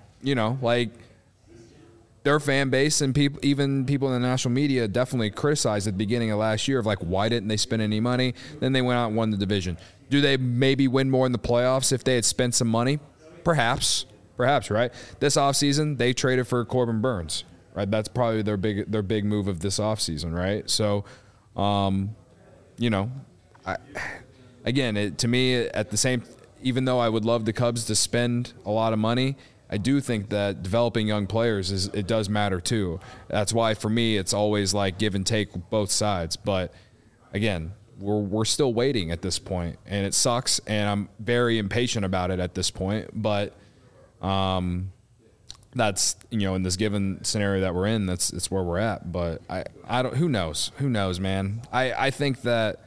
their fan base and even people in the national media definitely criticized at the beginning of last year of like, why didn't they spend any money? Then they went out and won the division. Do they maybe win more in the playoffs if they had spent some money? Perhaps, right? This offseason, they traded for Corbin Burns, right? That's probably their big move of this offseason, right? So, to me, at the same, even though I would love the Cubs to spend a lot of money, I do think that developing young players it does matter too. That's why for me it's always like give and take both sides. But again, we're still waiting at this point, and it sucks, and I'm very impatient about it at this point. But that's in this given scenario that we're in, that's where we're at. But I don't. Who knows, man. I think that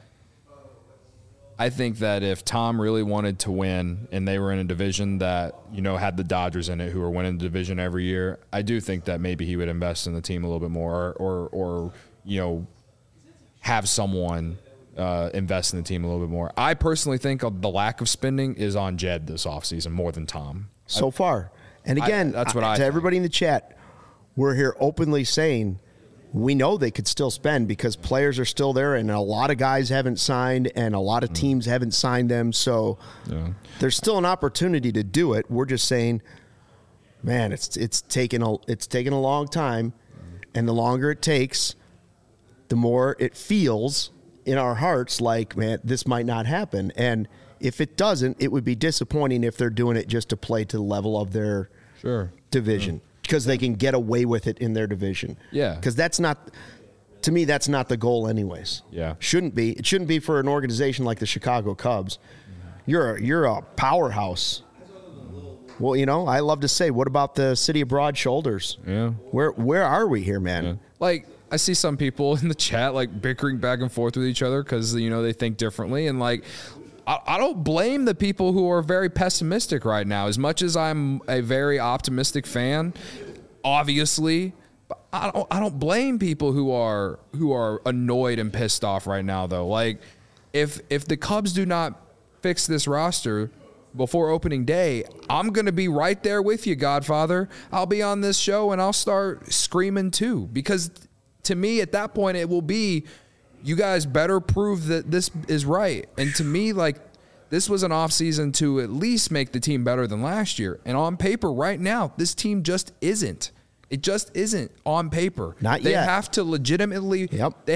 if Tom really wanted to win and they were in a division that, had the Dodgers in it who are winning the division every year, I do think that maybe he would invest in the team a little bit more or have someone invest in the team a little bit more. I personally think the lack of spending is on Jed this offseason more than Tom. So far. And again, to everybody in the chat, we're here openly saying we know they could still spend because players are still there and a lot of guys haven't signed and a lot of teams haven't signed them. So there's still an opportunity to do it. We're just saying, man, it's taken a long time, and the longer it takes, the more it feels in our hearts like, man, this might not happen. And if it doesn't, it would be disappointing if they're doing it just to play to the level of their division. Because they can get away with it in their division. Yeah. Because that's not the goal anyways. Yeah. Shouldn't be. It shouldn't be for an organization like the Chicago Cubs. You're a powerhouse. Well, I love to say, what about the city of broad shoulders? Yeah. Where are we here, man? Yeah. Like, I see some people in the chat, like, bickering back and forth with each other because, they think differently. And, like, I don't blame the people who are very pessimistic right now. As much as I'm a very optimistic fan, obviously, but I don't blame people who are annoyed and pissed off right now, though. Like, if the Cubs do not fix this roster before opening day, I'm going to be right there with you, Godfather. I'll be on this show and I'll start screaming too, because to me at that point it will be, you guys better prove that this is right. And to me, like, this was an offseason to at least make the team better than last year. And on paper right now, this team just isn't. It just isn't on paper. Not yet. They have to legitimately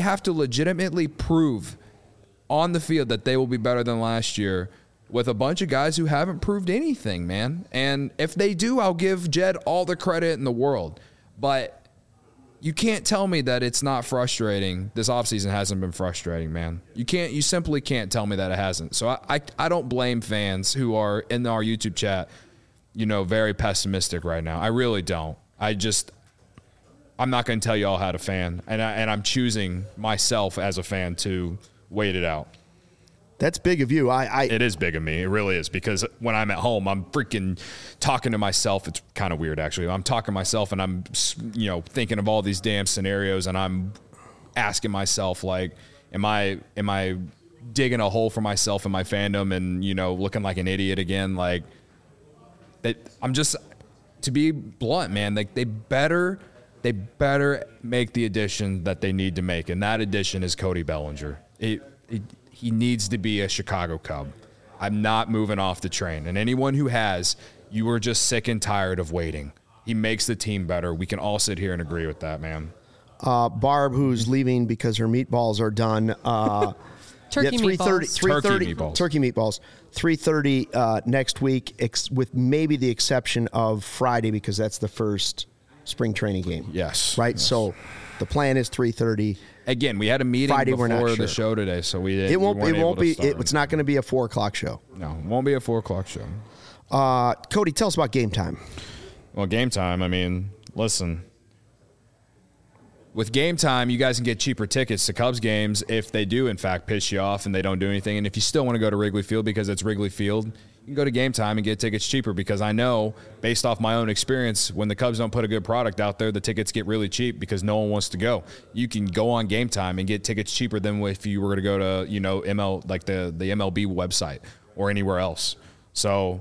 prove on the field that they will be better than last year with a bunch of guys who haven't proved anything, man. And if they do, I'll give Jed all the credit in the world. But you can't tell me that it's not frustrating. This offseason hasn't been frustrating, man. You simply can't tell me that it hasn't. So I don't blame fans who are in our YouTube chat, very pessimistic right now. I really don't. I'm not going to tell you all how to fan, and I'm choosing myself as a fan to wait it out. That's big of you. It is big of me. It really is, because when I'm at home, I'm freaking talking to myself. It's kind of weird, actually. I'm talking to myself, and I'm, thinking of all these damn scenarios, and I'm asking myself, like, am I digging a hole for myself in my fandom and, looking like an idiot again? Like, I'm just, to be blunt, man, like, they better make the addition that they need to make, and that addition is Cody Bellinger. He needs to be a Chicago Cub. I'm not moving off the train. And anyone who has, You were just sick and tired of waiting. He makes the team better. We can all sit here and agree with that, man. Barb, who's leaving because her meatballs are done. Turkey meatballs. Turkey meatballs. 3:30 next week, with maybe the exception of Friday because that's the first spring training game. Yes. Right? Yes. So the plan is 3:30. Again, we had a meeting Friday, before we're not sure. the show today, so we didn't. It won't be. Start. It's not going to be a 4 o'clock show. No, it won't be a 4 o'clock show. Cody, tell us about Game Time. Well, Game Time, I mean, listen. With Game Time, you guys can get cheaper tickets to Cubs games if they do, in fact, piss you off and they don't do anything. And if you still want to go to Wrigley Field because it's Wrigley Field, you can go to Game Time and get tickets cheaper because I know, based off my own experience, when the Cubs don't put a good product out there, the tickets get really cheap because no one wants to go. You can go on Game Time and get tickets cheaper than if you were to go to, the MLB website or anywhere else. So,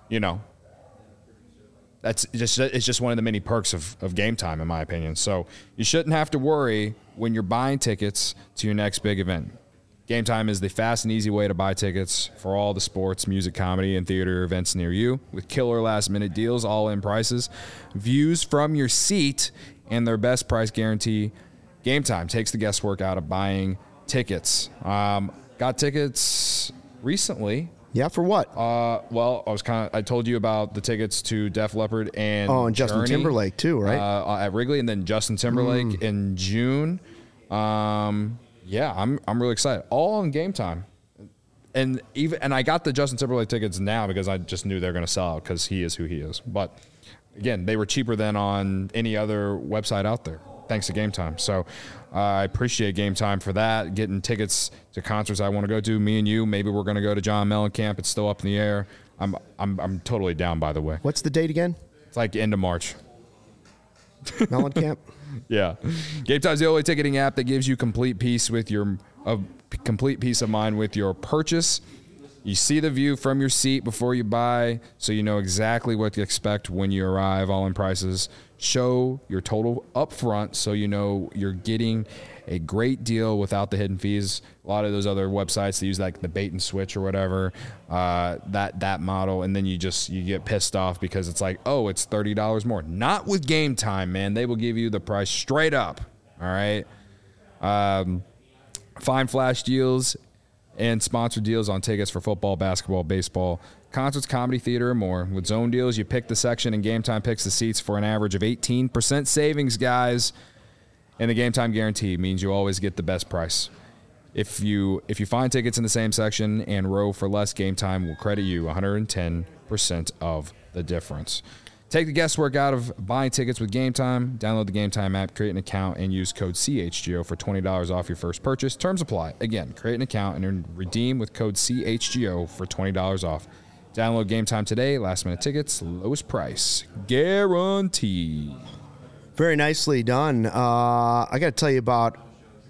it's just one of the many perks of Game Time, in my opinion. So you shouldn't have to worry when you're buying tickets to your next big event. Game Time is the fast and easy way to buy tickets for all the sports, music, comedy, and theater events near you with killer last-minute deals, all-in prices, views from your seat, and their best price guarantee. Game Time takes the guesswork out of buying tickets. Got tickets recently. Yeah, for what? Well, I told you about the tickets to Def Leppard and Justin Journey, Timberlake too, right? At Wrigley, and then Justin Timberlake in June. I'm really excited. All on Game Time, and I got the Justin Timberlake tickets now because I just knew they're going to sell out because he is who he is. But again, they were cheaper than on any other website out there, thanks to Game Time. So I appreciate Game Time for that. Getting tickets to concerts I want to go to. Me and you, maybe we're going to go to John Mellencamp. It's still up in the air. I'm totally down. By the way, what's the date again? It's like end of March. Mellencamp. Yeah, Game Time is the only ticketing app that gives you complete peace of mind with your purchase. You see the view from your seat before you buy, so you know exactly what to expect when you arrive, all in prices. Show your total up front so you know you're getting a great deal without the hidden fees. A lot of those other websites, they use like the bait and switch or whatever, that model, and then you get pissed off because it's like, oh, it's $30 more. Not with Game Time, man. They will give you the price straight up, all right? Find flash deals and sponsored deals on tickets for football, basketball, baseball, concerts, comedy, theater, and more. With zone deals, you pick the section and Game Time picks the seats for an average of 18% savings, guys. And the Game Time guarantee means you always get the best price. If you find tickets in the same section and row for less, Game Time will credit you 110% of the difference. Take the guesswork out of buying tickets with Game Time. Download the Game Time app, create an account, and use code CHGO for $20 off your first purchase. Terms apply. Again, create an account and redeem with code CHGO for $20 off. Download Game Time today. Last minute tickets, lowest price guaranteed. Very nicely done. I got to tell you about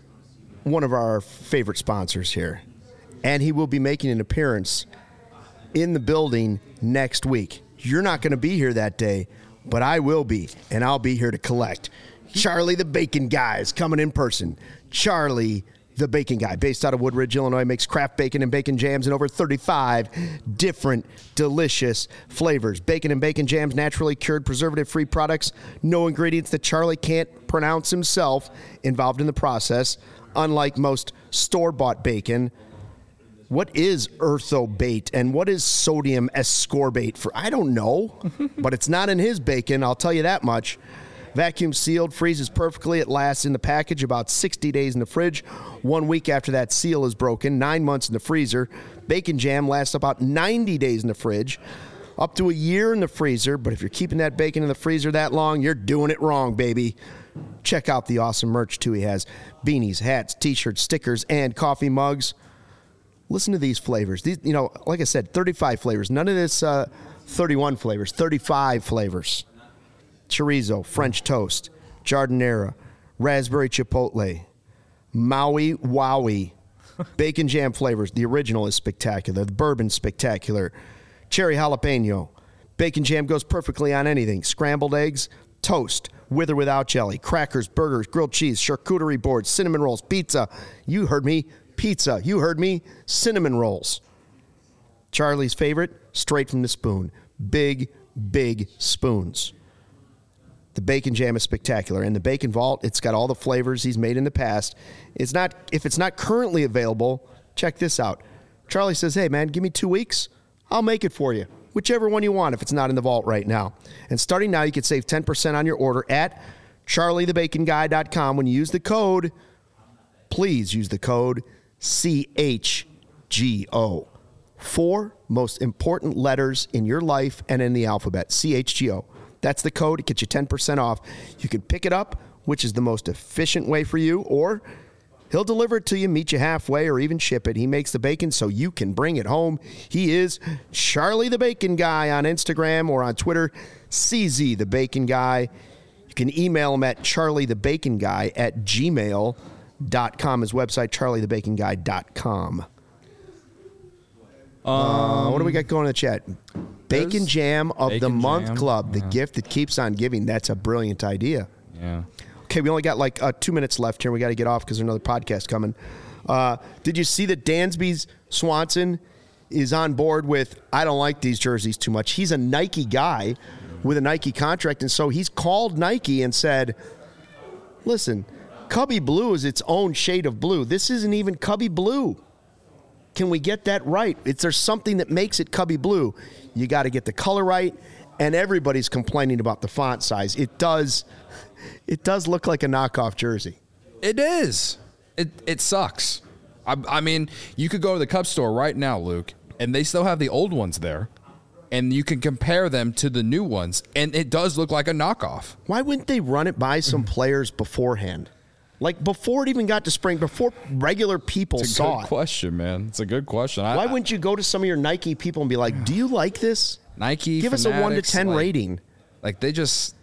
one of our favorite sponsors here, and he will be making an appearance in the building next week. You're not going to be here that day, but I will be, and I'll be here to collect. Charlie the Bacon Guy is coming in person. Charlie the Bacon Guy, based out of Woodridge, Illinois, makes craft bacon and bacon jams in over 35 different delicious flavors. Bacon and bacon jams, naturally cured, preservative-free products. No ingredients that Charlie can't pronounce himself involved in the process. Unlike most store-bought bacon, what is erythrobait and what is sodium ascorbate for? I don't know, but it's not in his bacon, I'll tell you that much. Vacuum sealed, freezes perfectly. It lasts in the package about 60 days in the fridge. 1 week after that seal is broken, 9 months in the freezer. Bacon jam lasts about 90 days in the fridge, up to a year in the freezer. But if you're keeping that bacon in the freezer that long, you're doing it wrong, baby. Check out the awesome merch, too. He has beanies, hats, T-shirts, stickers, and coffee mugs. Listen to these flavors. These, like I said, 35 flavors. None of this 31 flavors, 35 flavors. Chorizo, French toast, jardinera, raspberry chipotle, Maui Wowie, bacon jam flavors. The original is spectacular. The bourbon's spectacular. Cherry jalapeno. Bacon jam goes perfectly on anything. Scrambled eggs, toast, with or without jelly, crackers, burgers, grilled cheese, charcuterie boards, cinnamon rolls, pizza. You heard me. Pizza. You heard me. Cinnamon rolls. Charlie's favorite, straight from the spoon. Big big spoons. The Bacon Jam is spectacular. And the Bacon Vault, it's got all the flavors he's made in the past. If it's not currently available, check this out. Charlie says, hey, man, give me 2 weeks. I'll make it for you. Whichever one you want if it's not in the vault right now. And starting now, you can save 10% on your order at charliethebaconguy.com. When you use the code, please use the code CHGO. 4 most important letters in your life and in the alphabet, CHGO. That's the code. It gets you 10% off. You can pick it up, which is the most efficient way for you, or he'll deliver it to you, meet you halfway, or even ship it. He makes the bacon so you can bring it home. He is Charlie the Bacon Guy on Instagram or on Twitter, CZ the Bacon Guy. You can email him at charliethebaconguy@gmail.com. His website, charliethebaconguy.com. What do we got going in the chat? Bacon Jam of the Month Club, the gift that keeps on giving. That's a brilliant idea. Yeah. Okay, we only got like 2 minutes left here. We got to get off because there's another podcast coming. Did you see that Dansby Swanson is on board with, I don't like these jerseys too much. He's a Nike guy with a Nike contract, and so he's called Nike and said, listen, Cubby Blue is its own shade of blue. This isn't even Cubby Blue. Can we get that right? There's something that makes it Cubby Blue. You got to get the color right, and everybody's complaining about the font size. It does look like a knockoff jersey. It is. It sucks. I mean, you could go to the Cubs store right now, Luke, and they still have the old ones there, and you can compare them to the new ones, and it does look like a knockoff. Why wouldn't they run it by some players beforehand? Like before it even got to spring, before regular people saw it. It's a good question, man. It's a good question. Why wouldn't you go to some of your Nike people and be like, do you like this? Nike, give us a 1 to 10 rating. Like they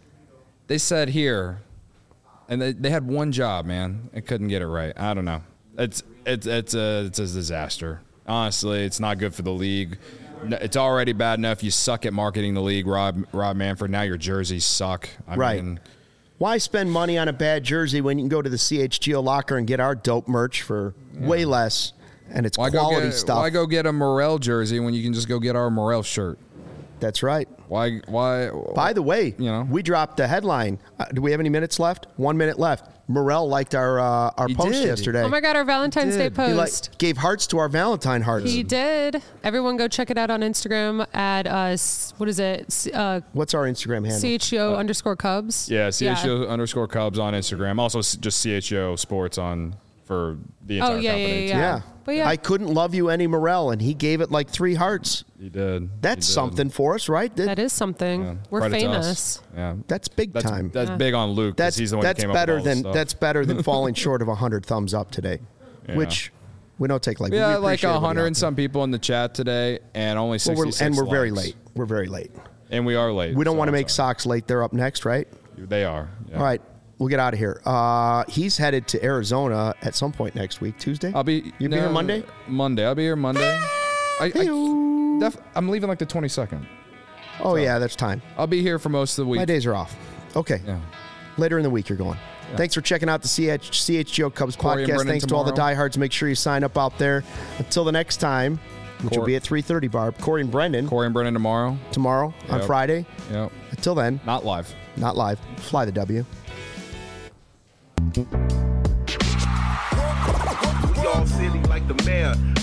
said here, and they had one job, man. It couldn't get it right. I don't know. It's a disaster. Honestly, it's not good for the league. It's already bad enough you suck at marketing the league, Rob Manfred. Now your jerseys suck. I mean, why spend money on a bad jersey when you can go to the CHGO locker and get our dope merch for way less, and it's quality stuff? Why go get a Morel jersey when you can just go get our Morel shirt? That's right. Why? By the way, we dropped the headline. Do we have any minutes left? 1 minute left. Morel liked our post yesterday. Oh my God, our Valentine's Day post. He gave hearts to our Valentine hearts. He did. Everyone go check it out on Instagram at what is it? What's our Instagram handle? CHGO_Cubs. Yeah, CHGO_Cubs on Instagram. Also just CHGO Sports for the entire company. Yeah. But yeah. I couldn't love you any, Morel, and he gave it like 3 hearts. He did. That's something for us, right? That is something. Yeah. We're famous. Yeah, that's big time. That's big on Luke. He's the one who came up with all this stuff. That's better than falling short of 100 thumbs up today, which we don't take like. Yeah, like 100 and some people in the chat today, and only 66 and we're likes. very late. We're very late. And we are late. We don't want to make Sox late. They're up next, right? They are. Yeah. All right. We'll get out of here. He's headed to Arizona at some point next week, Tuesday. You'll be here Monday? Monday. I'll be here Monday. I'm leaving like the 22nd. Oh, yeah, that's time. I'll be here for most of the week. My days are off. Okay. Yeah. Later in the week, you're going. Yeah. Thanks for checking out the CHGO Cubs podcast. Thanks to all the diehards. Make sure you sign up out there. Until the next time, which will be at 3:30, Barb. Corey and Brendan tomorrow. Tomorrow on Friday. Yep. Until then. Not live. Fly the W. We all silly like the mayor.